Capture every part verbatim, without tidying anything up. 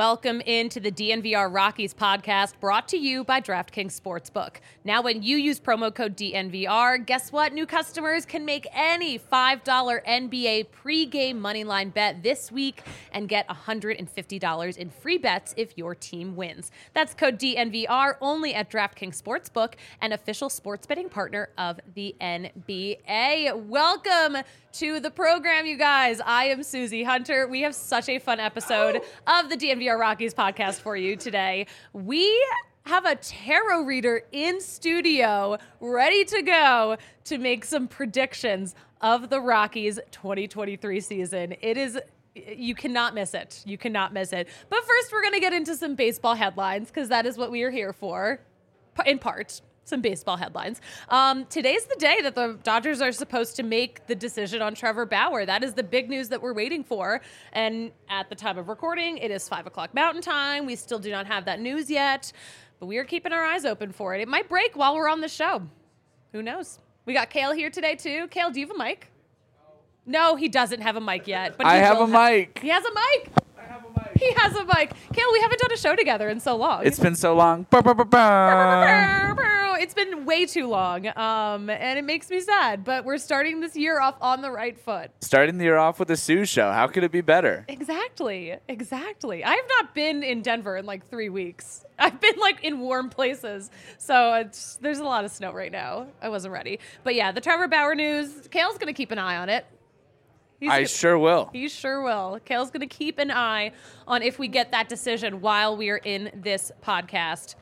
Welcome into the D N V R Rockies podcast, brought to you by DraftKings Sportsbook. Now, when you use promo code D N V R, guess what? New customers can make any five dollar N B A pregame moneyline bet this week and get one hundred fifty dollars in free bets if your team wins. That's code D N V R only at DraftKings Sportsbook, an official sports betting partner of the N B A. Welcome to the program, you guys. I am Susie Hunter. We have such a fun episode of the D N V R Rockies podcast for you today. We have a tarot reader in studio ready to go to make some predictions of the Rockies twenty twenty-three season. It is, you cannot miss it. You cannot miss it. But first, we're going to get into some baseball headlines because that is what we are here for, in part. Some baseball headlines. Um, today's the day that the Dodgers are supposed to make the decision on Trevor Bauer. That is the big news that we're waiting for. And at the time of recording, it is five o'clock Mountain Time. We still do not have that news yet, but we are keeping our eyes open for it. It might break while we're on the show. Who knows? We got Kale here today, too. Kale, do you have a mic? No, he doesn't have a mic yet. But I have a have, mic. He has a mic. I have a mic. He has a mic. Kale, we haven't done a show together in so long. It's been so long. Burr, burr, burr, burr. It's been way too long, um, and it makes me sad, but we're starting this year off on the right foot. Starting the year off with a Sue show. How could it be better? Exactly. Exactly. I have not been in Denver in like three weeks. I've been like in warm places, so it's, there's a lot of snow right now. I wasn't ready. But yeah, the Trevor Bauer news, Kale's going to keep an eye on it. He's I gonna, sure will. He sure will. Kale's going to keep an eye on if we get that decision while we are in this podcast.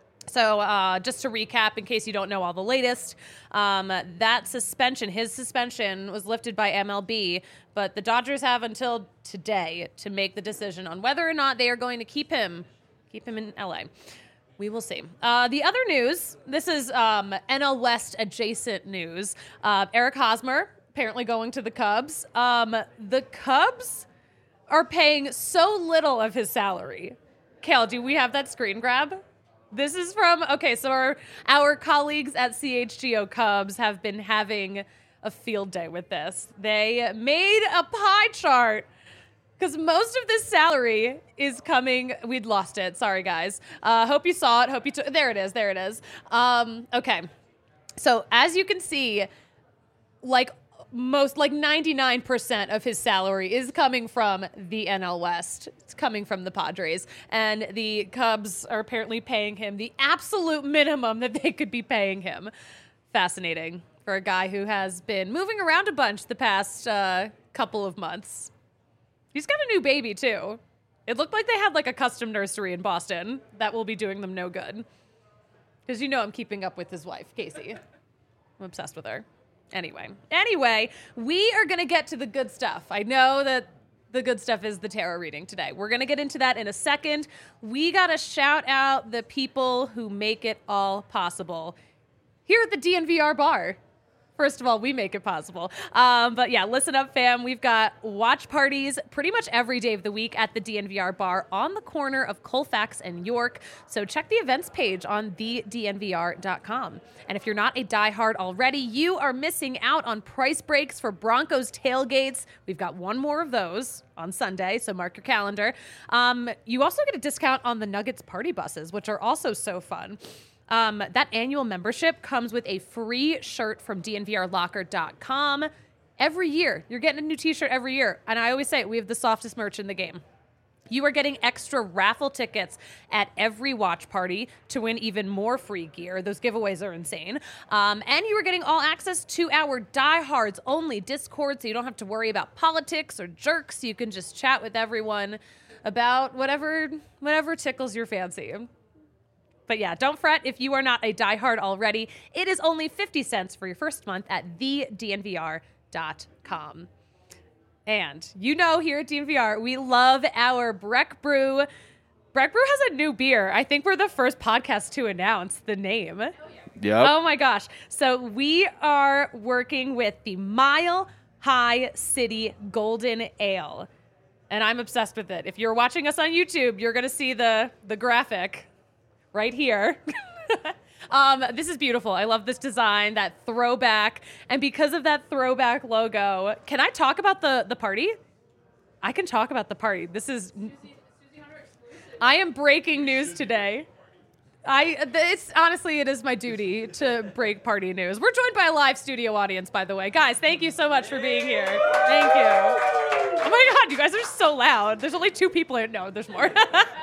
So uh, just to recap, in case you don't know all the latest, um, that suspension, his suspension was lifted by M L B, but the Dodgers have until today to make the decision on whether or not they are going to keep him, keep him in L A. We will see. Uh, the other news, this is um, N L West adjacent news. Uh, Eric Hosmer apparently going to the Cubs. Um, the Cubs are paying so little of his salary. Kale, do we have that screen grab? This is from, okay, so our, our colleagues at C H G O Cubs have been having a field day with this. They made a pie chart because most of this salary is coming, we'd lost it, sorry guys. Uh, hope you saw it, hope you took, there it is, there it is. Um, okay, so as you can see, like most, like ninety-nine percent of his salary is coming from the N L West. It's coming from the Padres. And the Cubs are apparently paying him the absolute minimum that they could be paying him. Fascinating for a guy who has been moving around a bunch the past uh, couple of months. He's got a new baby, too. It looked like they had like a custom nursery in Boston that will be doing them no good. Because you know I'm keeping up with his wife, Casey. I'm obsessed with her. Anyway, anyway, we are going to get to the good stuff. I know that the good stuff is the tarot reading today. We're going to get into that in a second. We got to shout out the people who make it all possible here at the D N V R bar. First of all, we make it possible. Um, but yeah, listen up, fam. We've got watch parties pretty much every day of the week at the D N V R bar on the corner of Colfax and York. So check the events page on the D N V R dot com. And if you're not a diehard already, you are missing out on price breaks for Broncos tailgates. We've got one more of those on Sunday, so mark your calendar. Um, you also get a discount on the Nuggets party buses, which are also so fun. Um, that annual membership comes with a free shirt from D N V R locker dot com. Every year, you're getting a new t-shirt every year. And I always say we have the softest merch in the game. You are getting extra raffle tickets at every watch party to win even more free gear. Those giveaways are insane. Um, and you are getting all access to our diehards only Discord, so you don't have to worry about politics or jerks. You can just chat with everyone about whatever, whatever tickles your fancy. But yeah, don't fret if you are not a diehard already. It is only fifty cents for your first month at the D N V R dot com. And you know here at D N V R, we love our Breck Brew. Breck Brew has a new beer. I think we're the first podcast to announce the name. Oh, yeah. Yep. Oh my gosh. So we are working with the Mile High City Golden Ale. And I'm obsessed with it. If you're watching us on YouTube, you're going to see the, the graphic right here. um, this is beautiful. I love this design, that throwback. And because of that throwback logo, can I talk about the, the party? I can talk about the party. This is... I am breaking news today. I it's honestly it is my duty to break party news. We're joined by a live studio audience, by the way. Guys, thank you so much for being here. Thank you. Oh my God, you guys are so loud. There's only two people here. No, there's more.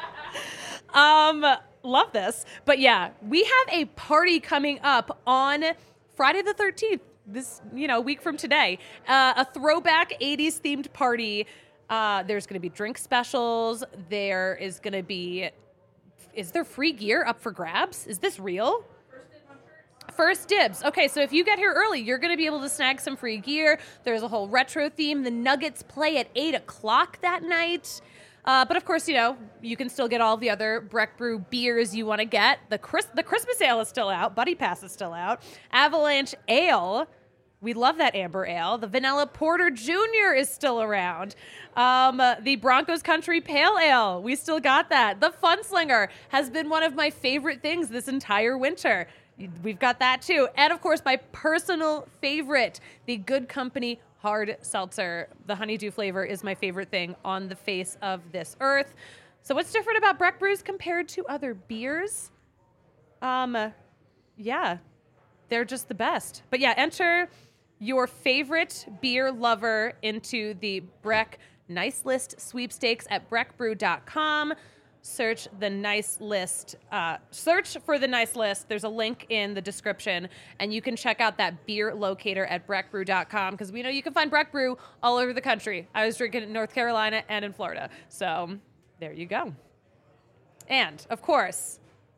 um, love this. But yeah, we have a party coming up on Friday the thirteenth. This, you know, week from today. Uh, a throwback eighties themed party. Uh, there's going to be drink specials. There is going to be. Is there free gear up for grabs? Is this real? First dibs on shirts. First dibs. Okay, so if you get here early, you're going to be able to snag some free gear. There's a whole retro theme. The Nuggets play at eight o'clock that night. Uh, but of course, you know, you can still get all the other Breck Brew beers you want to get. The, Chris- the Christmas Ale is still out. Buddy Pass is still out. Avalanche Ale. We love that amber ale. The Vanilla Porter Junior is still around. Um, uh, the Broncos Country Pale Ale, we still got that. The Fun Slinger has been one of my favorite things this entire winter. We've got that too. And of course, my personal favorite, the Good Company Hard Seltzer. The honeydew flavor is my favorite thing on the face of this earth. So what's different about Breck Brews compared to other beers? Um, yeah, they're just the best. But yeah, enter your favorite beer lover into the Breck Nice List sweepstakes at breck brew dot com. Search the Nice List. Uh, search for the Nice List. There's a link in the description, and you can check out that beer locator at breck brew dot com because we know you can find Breck Brew all over the country. I was drinking it in North Carolina and in Florida. So there you go. And, of course,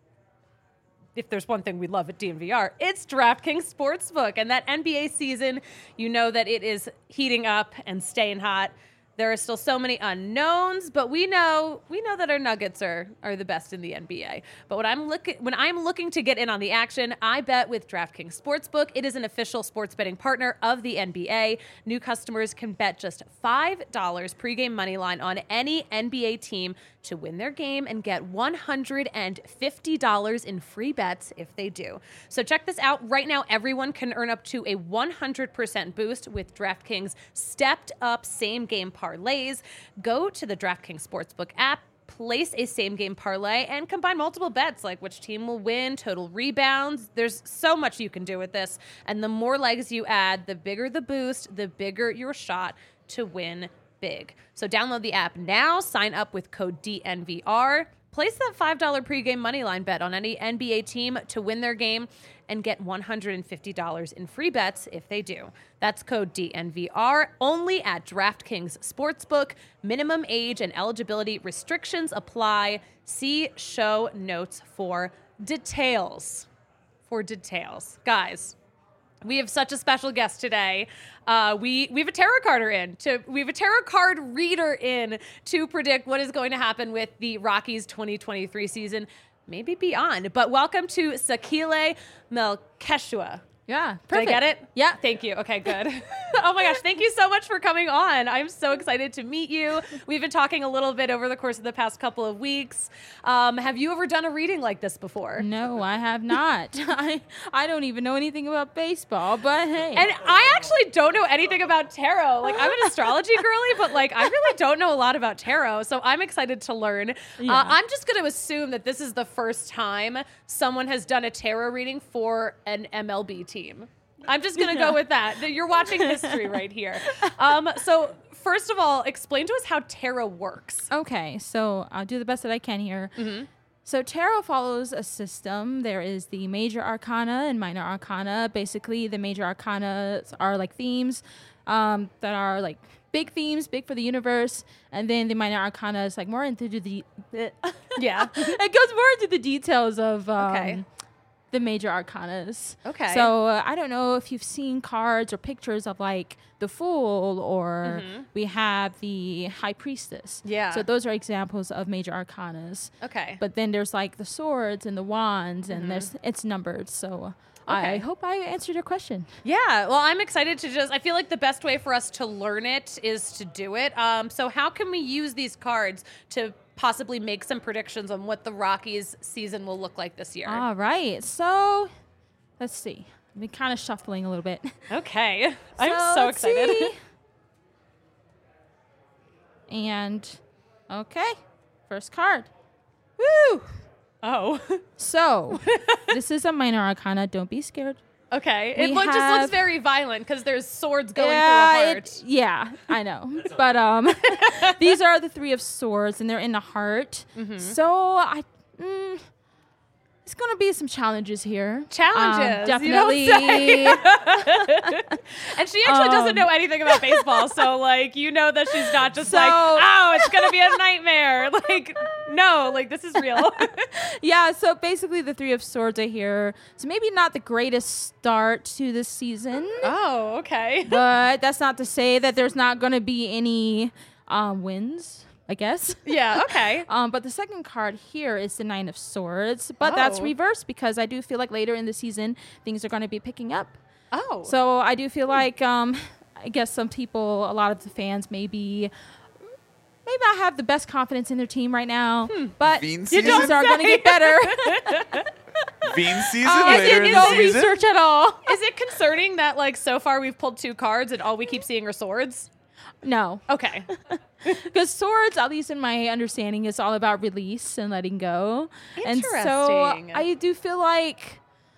if there's one thing we love at D N V R, it's DraftKings Sportsbook. And that N B A season, you know that it is heating up and staying hot. There are still so many unknowns, but we know we know that our Nuggets are are the best in the N B A. But when I'm looking when I'm looking to get in on the action, I bet with DraftKings Sportsbook. It is an official sports betting partner of the N B A. New customers can bet just five dollars pregame money line on any N B A team to win their game and get one hundred fifty dollars in free bets if they do. So check this out. Right now, everyone can earn up to a one hundred percent boost with DraftKings stepped up same game parlays. Go to the DraftKings Sportsbook app, place a same game parlay, and combine multiple bets like which team will win, total rebounds. There's so much you can do with this. And the more legs you add, the bigger the boost, the bigger your shot to win big. So download the app now, sign up with code D N V R, place that five dollars pregame moneyline bet on any N B A team to win their game and get one hundred fifty dollars in free bets if they do. That's code D N V R only at DraftKings Sportsbook. Minimum age and eligibility restrictions apply. See show notes for details. For details. Guys, we have such a special guest today. Uh, we we have a tarot carder in to we have a tarot card reader in to predict what is going to happen with the Rockies twenty twenty-three season, maybe beyond. But welcome to Sakile Melkeshua. Yeah, Did perfect. I get it? Yeah. Thank you. Okay, good. Oh my gosh, thank you so much for coming on. I'm so excited to meet you. We've been talking a little bit over the course of the past couple of weeks. Um, have you ever done a reading like this before? No, I have not. I I don't even know anything about baseball, but hey. And I actually don't know anything about tarot. Like, I'm an astrology girly, but like, I really don't know a lot about tarot. So I'm excited to learn. Yeah. Uh, I'm just going to assume that this is the first time someone has done a tarot reading for an M L B team. I'm just going to Yeah. go with that. You're watching history right here. Um, so first of all, explain to us how tarot works. Okay, so I'll do the best that I can here. Mm-hmm. So tarot follows a system. There is the major arcana and minor arcana. Basically, the major arcana are like themes um, that are like big themes, big for the universe, and then the minor arcana is like more into the Yeah. it goes more into the details of um, Okay. the major arcanas. Okay. So uh, I don't know if you've seen cards or pictures of like the Fool, or Mhm. we have the High Priestess. Yeah. So those are examples of major arcanas. Okay. But then there's like the swords and the wands, and Mhm. there's it's numbered. So Okay. I hope I answered your question. Yeah, well, I'm excited to just, I feel like the best way for us to learn it is to do it. Um, so how can we use these cards to possibly make some predictions on what the Rockies season will look like this year? All right. So let's see. I've been kind of shuffling a little bit. Okay. I'm so let's excited. see. And okay, first card. Woo! Oh. So, this is a minor arcana. Don't be scared. Okay. It We look, just looks have- very violent because there's swords going yeah, through a heart. it- yeah, I know. But um, these are the three of swords, and they're in the heart. Mm-hmm. So I, mm, it's gonna be some challenges here. Challenges, um, you don't definitely. And she actually doesn't Um, know anything about baseball, so like you know that she's not just like, So- oh, it's gonna be a nightmare. Like, no, like this is real. Yeah, so basically the three of swords are here. So maybe not the greatest start to this season, Oh, okay. but that's not to say that there's not gonna be any um, wins. I guess. Yeah, okay. Um, but the second card here is the Nine of Swords, but that's Oh. reversed because I do feel like later in the season things are going to be picking up. Oh. So I do feel like um, I guess some people, a lot of the fans, maybe maybe not have the best confidence in their team right now, but Bean things season? are going to say. get better. Bean season Um, I later did in no the season. research at all. Is it concerning that like so far we've pulled two cards and all we keep seeing are swords? No, Okay. because swords, at least in my understanding, is all about release and letting go. And so Interesting. I do feel like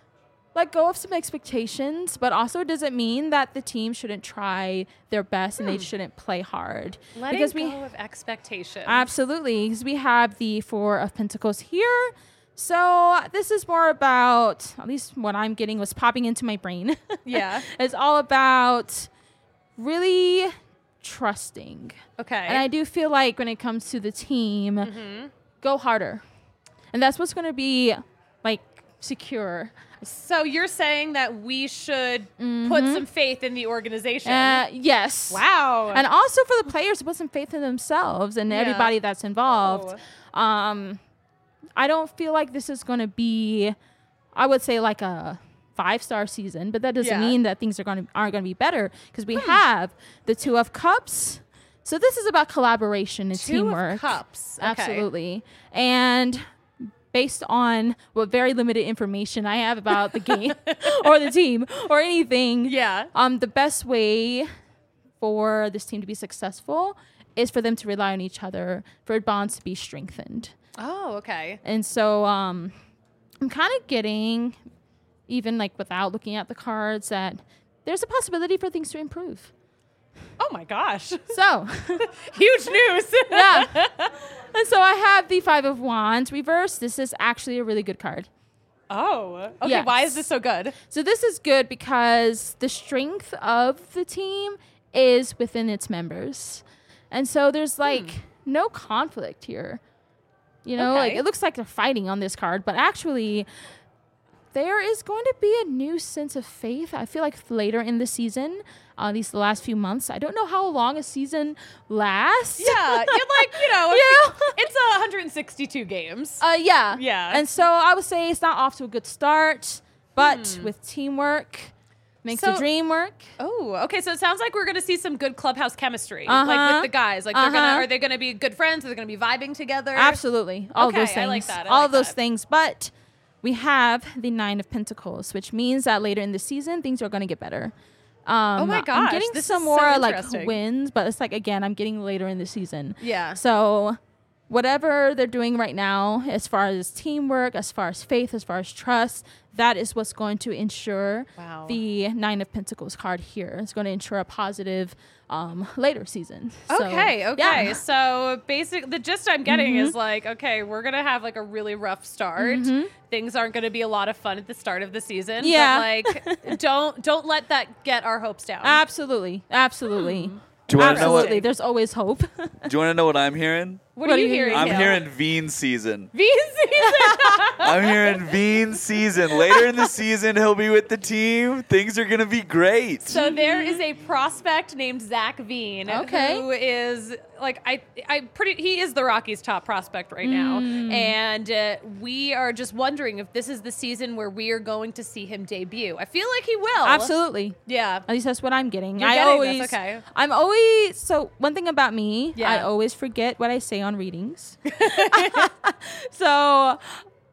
let go of some expectations, but also does it mean that the team shouldn't try their best and they shouldn't play hard? Letting because go we of expectations. absolutely, because we have the Four of Pentacles here. So this is more about, at least what I'm getting was popping into my brain. Yeah. It's all about really trusting. Okay. And I do feel like when it comes to the team, Mm-hmm. go harder. And that's what's going to be like secure. So you're saying that we should put some faith in the organization? Uh, yes. wow. And also for the players to put some faith in themselves and Yeah. everybody that's involved. Um, I don't feel like this is going to be, I would say, like a five-star season, but that doesn't Yeah. mean that things are going to aren't going to be better because we have the Two of Cups. So this is about collaboration and Two teamwork. of cups. Okay. Absolutely. And based on what very limited information I have about the game or the team or anything, Yeah. um, the best way for this team to be successful is for them to rely on each other, for bonds to be strengthened. Oh, okay. And so um, I'm kind of getting, even like without looking at the cards, that there's a possibility for things to improve. Oh my gosh. So, Huge news. yeah. And so I have the Five of Wands reversed. This is actually a really good card. Oh. Okay. Why is Yes. this so good? So this is good because the strength of the team is within its members. And so there's like no conflict here. You know, like Okay. it looks like they're fighting on this card, but actually there is going to be a new sense of faith. I feel like later in the season, uh, these the last few months, I don't know how long a season lasts. Yeah. You're like, you know, Yeah. it's uh, one hundred sixty-two games. Uh, yeah. Yeah. And so I would say it's not off to a good start, but with teamwork, makes the So- dream work. Oh, okay. So it sounds like we're going to see some good clubhouse chemistry, Uh-huh. like with the guys. Like they're gonna, Uh-huh. are they going to be good friends? Are they going to be vibing together? Absolutely. All Okay, of those things. I like that. I All like of those that. things. But we have the Nine of Pentacles, which means that later in the season, things are going to get better. Um, Oh my I'm gosh, getting this some is so more like interesting. wins, but it's like, again, I'm getting later in the season. Yeah. So whatever they're doing right now, as far as teamwork, as far as faith, as far as trust, that is what's going to ensure Wow. the Nine of Pentacles card here. It's going to ensure a positive um, later season. So, Okay, okay. yeah. Mm-hmm. So basic the gist I'm getting is like, okay, we're gonna have like a really rough start. Things aren't gonna be a lot of fun at the start of the season. Yeah. But like don't don't let that get our hopes down. Absolutely. Absolutely. Do you want to know what? Absolutely. There's always hope. Do you want to know what I'm hearing? what, what are you do you- hearing? I'm Hale? hearing Veen season. V season. I'm hearing Veen season. Later in the season, he'll be with the team. Things are gonna be great. So there is a prospect named Zach Veen, Okay. who is like I, I pretty. He is the Rockies' top prospect right now, Mm. and uh, we are just wondering if this is the season where we are going to see him debut. I feel like he will. Absolutely. Yeah. At least that's what I'm getting. You're I getting always, this, okay. I'm always, so one thing about me, Yeah. I always forget what I say on readings. So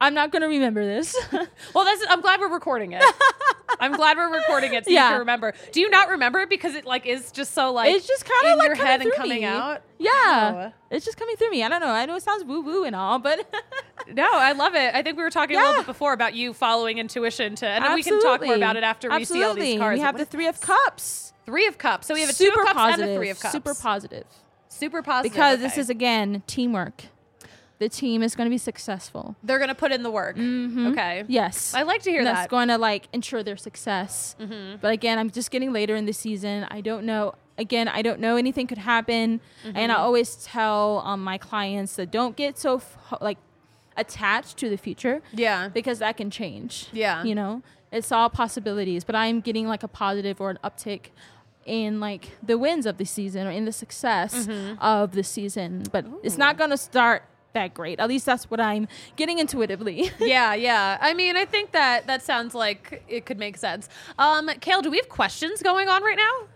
I'm not gonna remember this. Well, that's. I'm glad we're recording it. I'm glad we're recording it so Yeah. you can remember. Do you not remember it because it like is just so like It's just kind of in like your coming head and through coming me. out? Yeah, Oh. it's just coming through me. I don't know. I know it sounds woo woo and all, but No, I love it. I think we were talking a Yeah. little bit before about you following intuition to, and then we can talk more Absolutely. about it after we Absolutely. see all these cards. We have What the is three of this? cups. Three of cups. So we have a Super two of cups positive. and a three of cups. Super positive. Super positive. Because okay. this is again teamwork. The team is going to be successful. They're gonna put in the work. Mhm. Okay. Yes. I like to hear And that. that's going to like ensure their success. Mm-hmm. But again, I'm just getting later in the season. I don't know. Again, I don't know. Anything could happen. Mm-hmm. And I always tell um, my clients that don't get so f- like attached to the future Yeah. because that can change. Yeah. You know, it's all possibilities. But I'm getting like a positive or an uptick in like the wins of the season or in the success Mm-hmm. of the season. But it's not going to start that great. At least that's what I'm getting intuitively. Yeah, yeah. I mean, I think that that sounds like it could make sense. Um, Kale, do we have questions going on right now?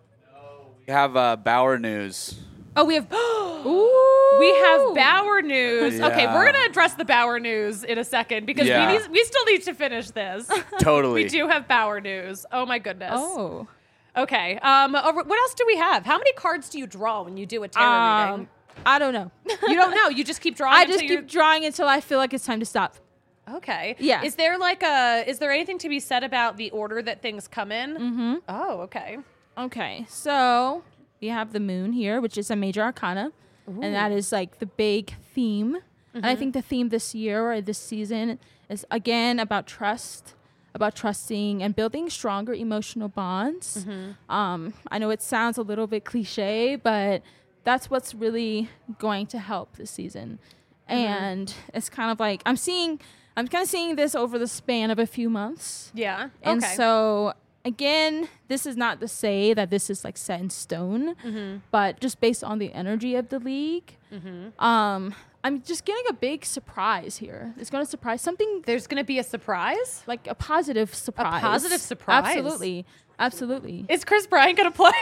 We have uh, Bauer news. Oh, we have. Ooh. We have Bauer news. Okay, Yeah. we're gonna address the Bauer news in a second because Yeah. we need, we still need to finish this. Totally. We do have Bauer news. Oh my goodness. Oh. Okay. Um. over- What else do we have? How many cards do you draw when you do a tarot Um, reading? I don't know. You don't know. You just keep drawing. I until just you're- keep drawing until I feel like it's time to stop. Okay. Yeah. Is there like a? Is there anything to be said about the order that things come in? Mm-hmm. Oh, okay. Okay, so we have the moon here, which is a major arcana, and that is like the big theme. And I think the theme this year or this season is again about trust, about trusting and building stronger emotional bonds. Um, I know it sounds a little bit cliche, but that's what's really going to help this season. And it's kind of like I'm seeing, I'm kind of seeing this over the span of a few months. Yeah. And okay. so again, this is not to say that this is like set in stone, Mm-hmm. but just based on the energy of the league, um, I'm just getting a big surprise here. It's going to surprise something There's gonna be a surprise. like a positive surprise. positive surprise? Absolutely. Absolutely. Is Chris Bryant gonna play?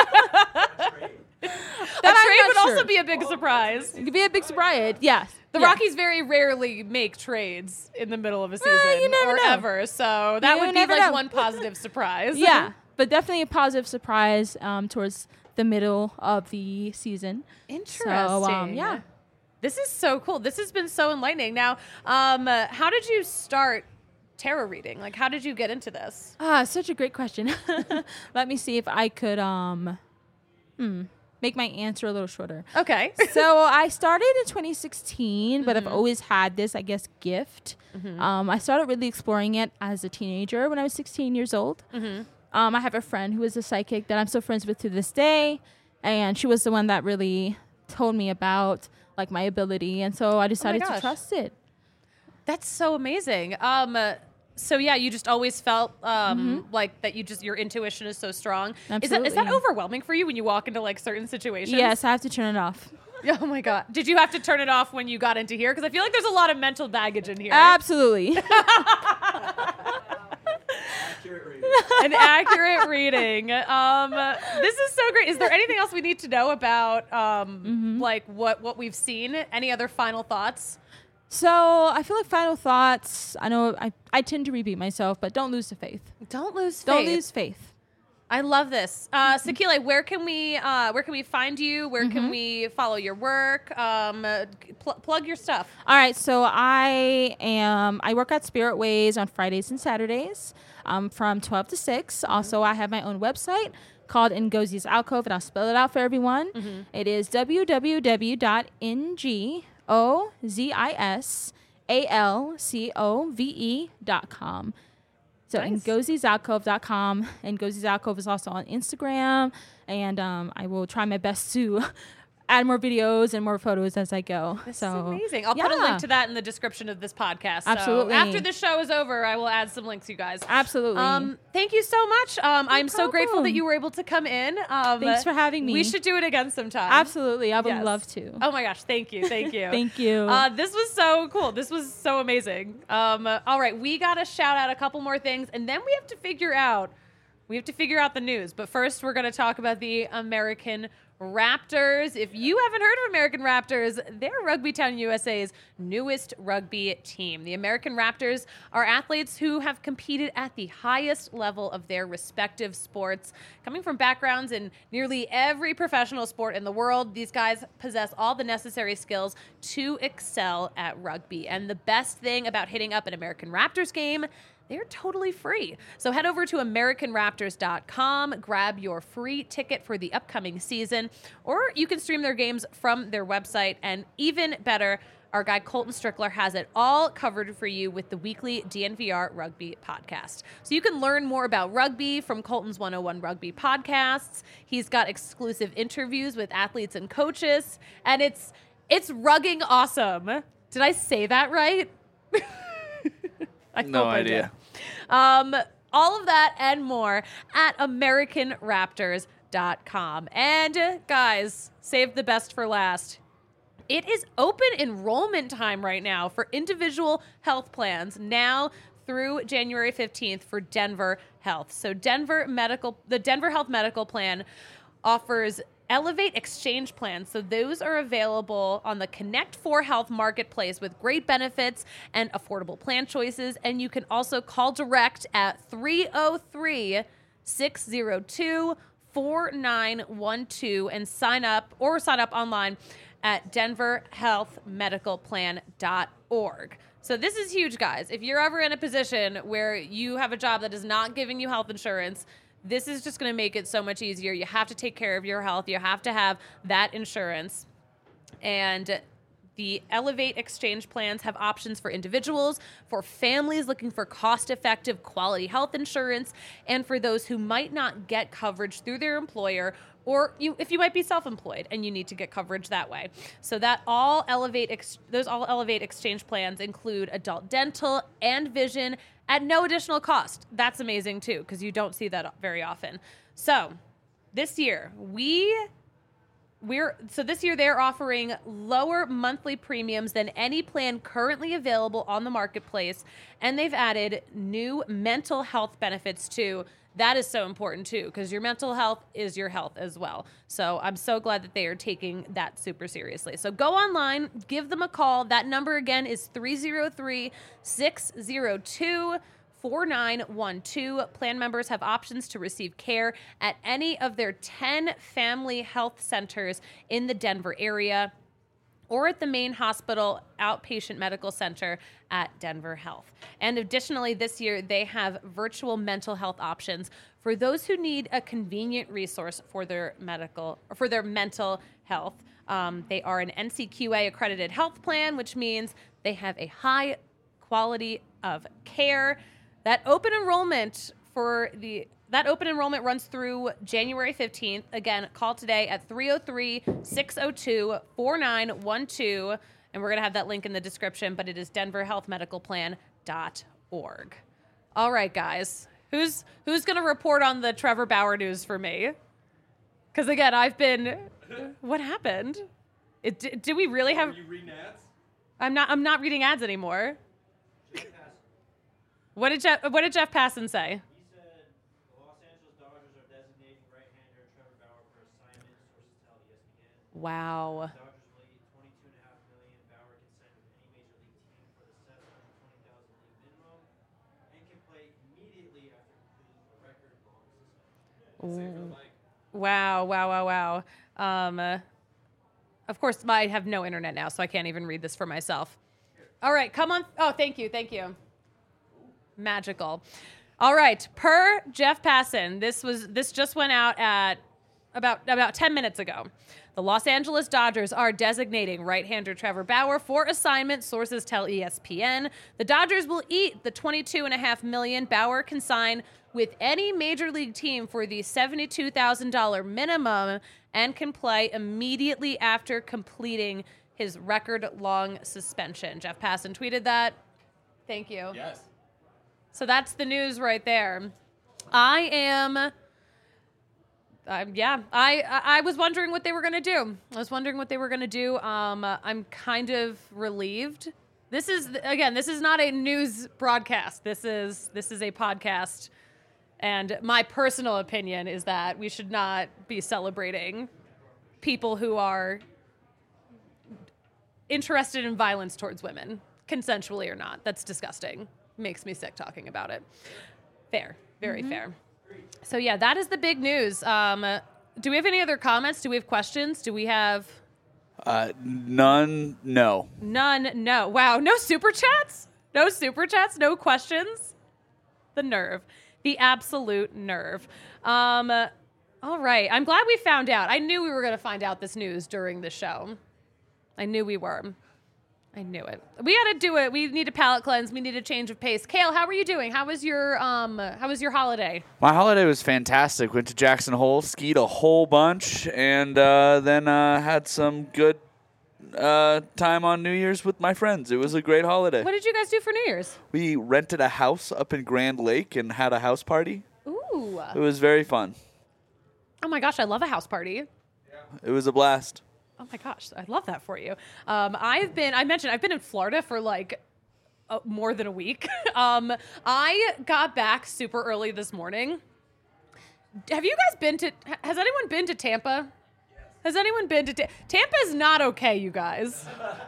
a I'm trade not would also sure. be a big surprise. It could be a big surprise. Yeah. The Yeah. Rockies very rarely make trades in the middle of a season you never or know. ever, so that You would be never like know. one positive surprise. Yeah. But definitely a positive surprise um, towards the middle of the season. Interesting. So, um, yeah. This is so cool. This has been so enlightening. Now, um, uh, how did you start tarot reading? Like, how did you get into this? Ah, such a great question. Let me see if I could um hmm, make my answer a little shorter. Okay. So I started in twenty sixteen, but I've always had this, I guess, gift. Um, I started really exploring it as a teenager when I was sixteen years old. Um, I have a friend who is a psychic that I'm still friends with to this day, and she was the one that really told me about like my ability, and so I decided to gosh. trust it. That's so amazing. Um, uh, so yeah, you just always felt um like that. You just your intuition is so strong. Is that is that Absolutely. overwhelming for you when you walk into like certain situations? Yes, I have to turn it off. Oh my god. Did you have to turn it off when you got into here? Because I feel like there's a lot of mental baggage in here. Absolutely. An accurate reading. Um, this is so great. Is there anything else we need to know about um like what what we've seen? Any other final thoughts? So I feel like final thoughts. I know I, I tend to repeat myself, but don't lose the faith. Don't lose faith. Don't lose faith. I love this. Uh, Sakila, where can we uh, where can we find you? Where can we follow your work? Um, uh, pl- plug your stuff. All right, so I am I work at Spirit Ways on Fridays and Saturdays um, from twelve to six. Also, I have my own website called Ngosi's Alcove, and I'll spell it out for everyone. It is w w w dot n g o z i s a l c o v e dot com. So Nice. ngosi's alcove dot com, and Ngosi's Alcove is also on Instagram, and um, I will try my best to add more videos and more photos as I go. This so is amazing. I'll put a yeah. link to that in the description of this podcast. So Absolutely. after the show is over, I will add some links, you guys. Absolutely. Um, thank you so much. Um, I'm so grateful that problem. you were able to come in. Um, Thanks for having me. We should do it again sometime. Absolutely. I would Yes. love to. Oh my gosh, thank you, thank you. Thank you. Uh, this was so cool. This was so amazing. Um, uh, all right, we got to shout out a couple more things, and then we have to figure out, we have to figure out the news. But first, we're going to talk about the American Raptors. If you haven't heard of American Raptors, they're Rugby Town U S A's newest rugby team. The American Raptors are athletes who have competed at the highest level of their respective sports. Coming from backgrounds in nearly every professional sport in the world, these guys possess all the necessary skills to excel at rugby. And the best thing about hitting up an American Raptors game, they're totally free. So head over to American Raptors dot com, grab your free ticket for the upcoming season, or you can stream their games from their website. And even better, our guy Colton Strickler has it all covered for you with the weekly D N V R Rugby podcast. So you can learn more about rugby from Colton's one oh one Rugby podcasts. He's got exclusive interviews with athletes and coaches, and it's it's rugging awesome. Did I say that right? I No hope I idea. did. Um, all of that and more at American Raptors dot com. And uh, guys, save the best for last. It is open enrollment time right now for individual health plans now through January fifteenth for Denver Health. So Denver Medical, the Denver Health Medical Plan offers Elevate Exchange plans. So those are available on the Connect four Health marketplace with great benefits and affordable plan choices. And you can also call direct at three oh three, six oh two, four nine one two and sign up or sign up online at denver health medical plan dot org. So this is huge, guys. If you're ever in a position where you have a job that is not giving you health insurance, this is just going to make it so much easier. You have to take care of your health. You have to have that insurance. And the Elevate Exchange plans have options for individuals, for families looking for cost-effective quality health insurance, and for those who might not get coverage through their employer, or you, if you might be self-employed and you need to get coverage that way. So that all Elevate, ex, those all Elevate Exchange plans include adult dental and vision at no additional cost. That's amazing too, because you don't see that very often. So this year we we're so this year they're offering lower monthly premiums than any plan currently available on the marketplace, and they've added new mental health benefits too. That is so important too, because your mental health is your health as well. So I'm so glad that they are taking that super seriously. So go online, give them a call. That number again is three oh three, six oh two, four nine one two. Plan members have options to receive care at any of their ten family health centers in the Denver area, or at the main hospital outpatient medical center at Denver Health. And additionally, this year, they have virtual mental health options for those who need a convenient resource for their medical or for their mental health. Um, they are an N C Q A accredited health plan, which means they have a high quality of care. That open enrollment for the That open enrollment runs through January fifteenth. Again, call today at three oh three, six oh two, four nine one two. And we're going to have that link in the description, but it is denver health medical plan dot org. All right, guys. Who's who's going to report on the Trevor Bauer news for me? Because, again, I've been... What happened? It, do, do we really have... Are you reading ads? I'm not, I'm not reading ads anymore. What did Jeff, what did Jeff Passan say? He said the Los Angeles Dodgers are designating right-hander Trevor Bauer for assignment, sources tell E S P N. Wow. Dodgers will eat twenty-two point five million dollars. Bauer can sign with any major league team for the seven hundred twenty thousand dollars league minimum and can play immediately after completing a record-long suspension. Wow, wow, wow, wow. Um, uh, of course, I have no internet now, so I can't even read this for myself. All right, come on. Oh, thank you, thank you. Magical. All right, per Jeff Passan, this was this just went out at about about ten minutes ago. The Los Angeles Dodgers are designating right-hander Trevor Bauer for assignment, sources tell E S P N. The Dodgers will eat the twenty-two point five million dollars Bauer can sign with any major league team for the seventy-two thousand dollars minimum and can play immediately after completing his record-long suspension. Jeff Passan tweeted that. Thank you. Yes. So that's the news right there. I am, um, yeah, I I was wondering what they were going to do. I was wondering what they were going to do. Um, I'm kind of relieved. This is, again, this is not a news broadcast. This is this is a podcast. And my personal opinion is that we should not be celebrating people who are interested in violence towards women, consensually or not. That's disgusting. Makes me sick talking about it. Fair. Very fair. So, yeah, that is the big news. Um, do we have any other comments? Do we have questions? Do we have... Uh, none, no. None, no. Wow, no super chats? No super chats? No questions? The nerve. The absolute nerve. Um, all right. I'm glad we found out. I knew we were going to find out this news during the show. I knew we were. I knew it. We got to do it. We need a palate cleanse. We need a change of pace. Kale, how are you doing? How was your um? How was your holiday? My holiday was fantastic. Went to Jackson Hole, skied a whole bunch, and uh, then uh, had some good uh, time on New Year's with my friends. It was a great holiday. What did you guys do for New Year's? We rented a house up in Grand Lake and had a house party. Ooh. It was very fun. Oh my gosh, I love a house party. It was a blast. Oh my gosh, I love that for you. Um, I've been, I mentioned, I've been in Florida for like uh, more than a week. um, I got back super early this morning. Have you guys been to, has anyone been to Tampa? Yes. Has anyone been to Tampa? Tampa's not okay, you guys.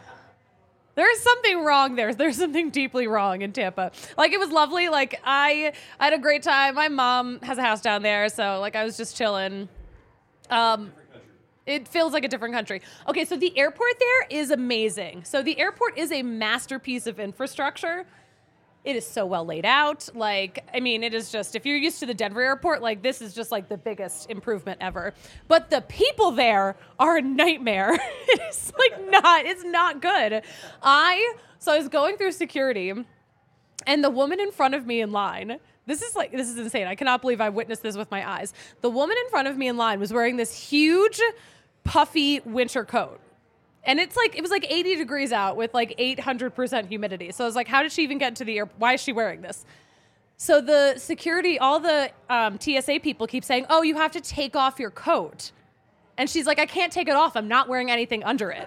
There's something wrong there. There's something deeply wrong in Tampa. Like, it was lovely. Like, I, I had a great time. My mom has a house down there, so like I was just chilling. Um, It feels like a different country. Okay, so the airport there is amazing. So the airport is a masterpiece of infrastructure. It is so well laid out. Like, I mean, it is just, if you're used to the Denver airport, like, this is just like the biggest improvement ever. But the people there are a nightmare. It's like not, it's not good. I, so I was going through security, and the woman in front of me in line, This is like, this is insane. I cannot believe I witnessed this with my eyes. The woman in front of me in line was wearing this huge, puffy winter coat. And it's like, it was like eighty degrees out with like eight hundred percent humidity. So I was like, how did she even get into the air? Why is she wearing this? So the security, all the um, T S A people keep saying, oh, you have to take off your coat. And she's like, I can't take it off. I'm not wearing anything under it.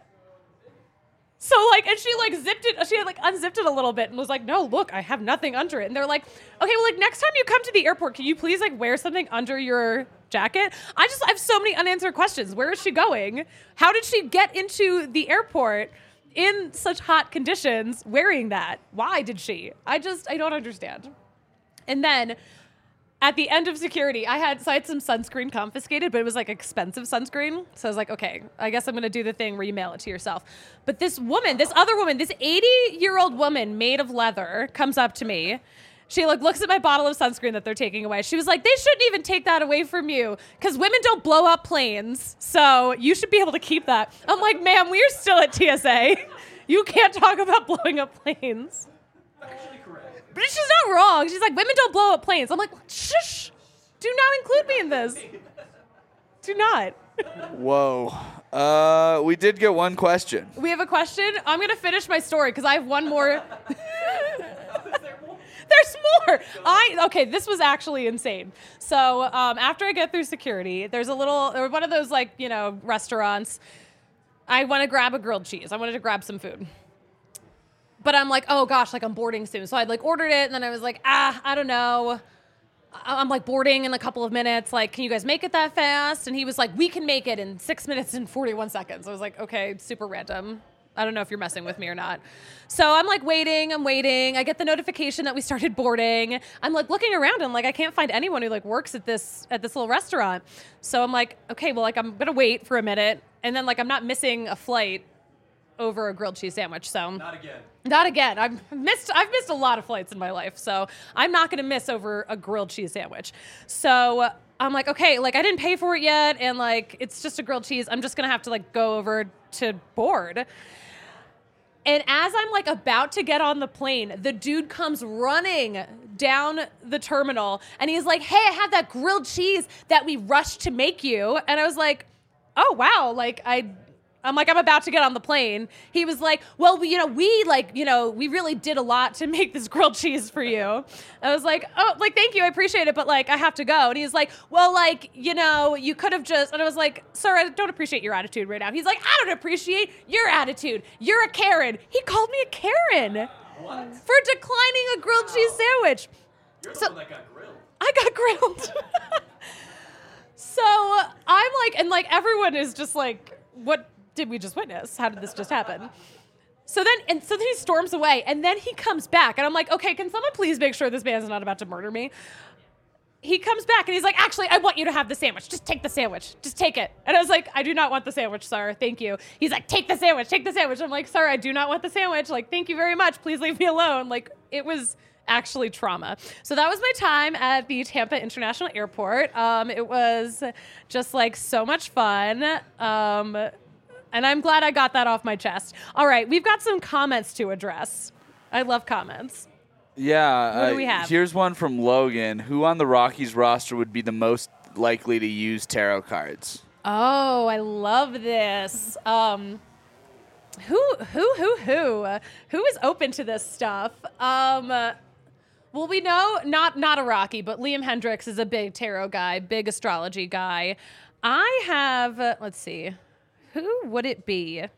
So, like, and she, like, zipped it, she had, like, unzipped it a little bit and was like, no, look, I have nothing under it. And they're like, okay, well, like, next time you come to the airport, can you please, like, wear something under your jacket? I just, I have so many unanswered questions. Where is she going? How did she get into the airport in such hot conditions wearing that? Why did she? I just, I don't understand. And then at the end of security, I had, so I had some sunscreen confiscated, but it was like expensive sunscreen. So I was like, okay, I guess I'm going to do the thing where you mail it to yourself. But this woman, this other woman, this eighty-year-old woman made of leather comes up to me. She like looks at my bottle of sunscreen that they're taking away. She was like, they shouldn't even take that away from you because women don't blow up planes. So you should be able to keep that. I'm like, ma'am, we're still at T S A. You can't talk about blowing up planes. Actually correct. But she's not wrong. She's like, women don't blow up planes. I'm like, shush. Do not include me in this. Do not. Whoa. Uh, we did get one question. We have a question. I'm going to finish my story because I have one more. There's more. I okay. This was actually insane. So um, after I get through security, there's a little, or one of those like you know restaurants. I want to grab a grilled cheese. I wanted to grab some food. But I'm like, oh gosh, like I'm boarding soon. So I like ordered it, and then I was like, ah, I don't know. I'm like boarding in a couple of minutes. Like, can you guys make it that fast? And he was like, we can make it in six minutes and forty-one seconds. I was like, okay, super random. I don't know if you're messing with me or not. So I'm like waiting, I'm waiting. I get the notification that we started boarding. I'm like looking around and like I can't find anyone who like works at this at this little restaurant. So I'm like, okay, well like I'm gonna wait for a minute, and then like I'm not missing a flight over a grilled cheese sandwich. So Not again. not again. I've missed I've missed a lot of flights in my life, so I'm not gonna miss over a grilled cheese sandwich. So I'm like, okay, like I didn't pay for it yet, and like it's just a grilled cheese. I'm just gonna have to like go over to board. And as I'm like about to get on the plane, the dude comes running down the terminal and he's like, hey, I have that grilled cheese that we rushed to make you. And I was like, oh, wow. Like I, I'm like, I'm about to get on the plane. He was like, well, we, you know, we like, you know, we really did a lot to make this grilled cheese for you. I was like, oh, like, thank you. I appreciate it. But like, I have to go. And he's like, well, like, you know, you could have just, and I was like, sir, I don't appreciate your attitude right now. He's like, I don't appreciate your attitude. You're a Karen. He called me a Karen. What? For declining a grilled cheese sandwich. You're the So- one that got grilled. I got grilled. So I'm like, and like everyone is just like, what did we just witness? How did this just happen? So then, and so then he storms away, and then he comes back, and I'm like, okay, can someone please make sure this man is not about to murder me? He comes back, and he's like, actually, I want you to have the sandwich. Just take the sandwich. Just take it. And I was like, I do not want the sandwich, sir. Thank you. He's like, take the sandwich. Take the sandwich. I'm like, sir, I do not want the sandwich. Like, thank you very much. Please leave me alone. Like, it was actually trauma. So that was my time at the Tampa International Airport. Um, it was just like so much fun. Um, And I'm glad I got that off my chest. All right, we've got some comments to address. I love comments. Yeah. What do uh, we have? Here's one from Logan. Who on the Rockies roster would be the most likely to use tarot cards? Oh, I love this. Um, who, who, who, who, who is open to this stuff? Um, well, we know not not a Rocky, but Liam Hendricks is a big tarot guy, big astrology guy. I have. Uh, let's see. Who would it be? I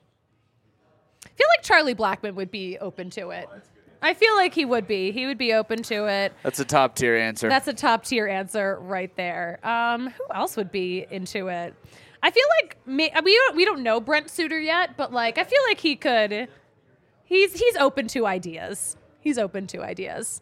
feel like Charlie Blackmon would be open to it. I feel like he would be. He would be open to it. That's a top tier answer. That's a top tier answer right there. Um, who else would be into it? I feel like me, we don't, we don't know Brent Suter yet, but like I feel like he could. He's he's open to ideas. He's open to ideas.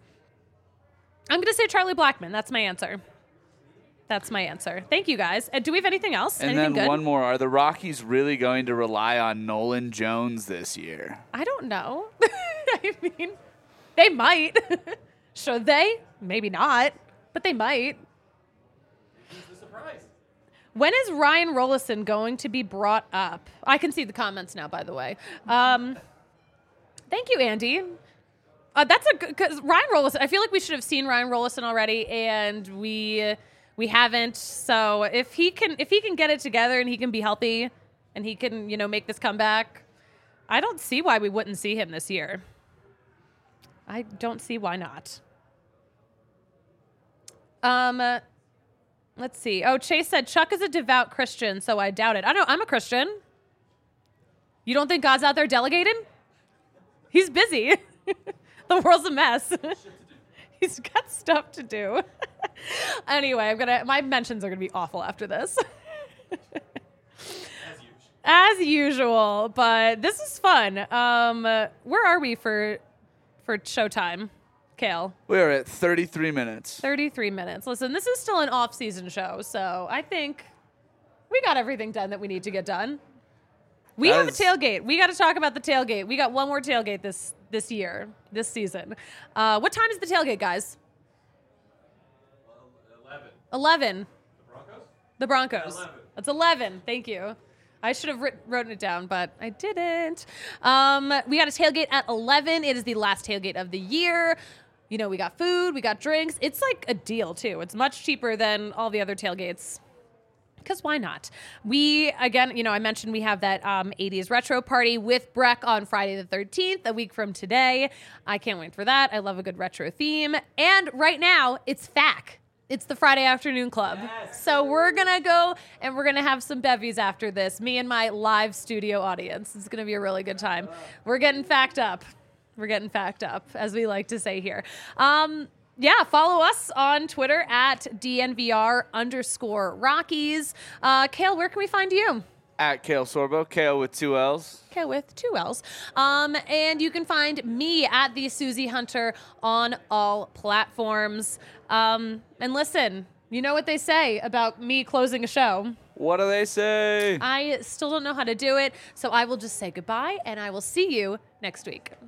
I'm gonna say Charlie Blackmon. That's my answer. That's my answer. Thank you, guys. Uh, do we have anything else? And anything then good? one more. Are the Rockies really going to rely on Nolan Jones this year? I don't know. I mean, they might. Should they? Maybe not, but they might. Who's the surprise? When is Ryan Rollison going to be brought up? I can see the comments now, by the way. Um, thank you, Andy. Uh, that's a good, because Ryan Rollison, I feel like we should have seen Ryan Rollison already, and we we haven't. So if he can if he can get it together and he can be healthy and he can, you know, make this comeback, I don't see why we wouldn't see him this year. I don't see why not. Um, uh, let's see. Oh, Chase said Chuck is a devout Christian, so I doubt it. I know I'm a Christian. You don't think God's out there delegating? He's busy. The world's a mess. He's got stuff to do. Anyway, I'm gonna. My mentions are gonna be awful after this. As usual. As usual, but this is fun. Um, uh, where are we for for showtime, Kale? We're at thirty-three minutes. thirty-three minutes. Listen, this is still an off-season show, so I think we got everything done that we need to get done. We That have is- a tailgate. We got to talk about the tailgate. We got one more tailgate this this year, this season. Uh, what time is the tailgate, guys? Eleven. eleven. The Broncos? The Broncos. eleven. It's eleven. Thank you. I should have writ- written it down, but I didn't. Um, we got a tailgate at eleven. It is the last tailgate of the year. You know, we got food, we got drinks. It's like a deal, too. It's much cheaper than all the other tailgates. Because why not? We, again, you know, I mentioned we have that um, eighties retro party with Breck on Friday the thirteenth, a week from today. I can't wait for that. I love a good retro theme. And right now, it's F A C. It's the Friday Afternoon Club. Yes. So we're going to go and we're going to have some bevies after this. Me and my live studio audience. It's going to be a really good time. We're getting fact up. We're getting fact up, as we like to say here. Um, yeah, follow us on Twitter at D N V R underscore Rockies. Uh, Kale, where can we find you? At Kale Sorbo. Kale with two L's. Kale with two L's. Um, and you can find me at the Susie Hunter on all platforms. Um, and listen, you know what they say about me closing a show. What do they say? I still don't know how to do it, so I will just say goodbye, and I will see you next week.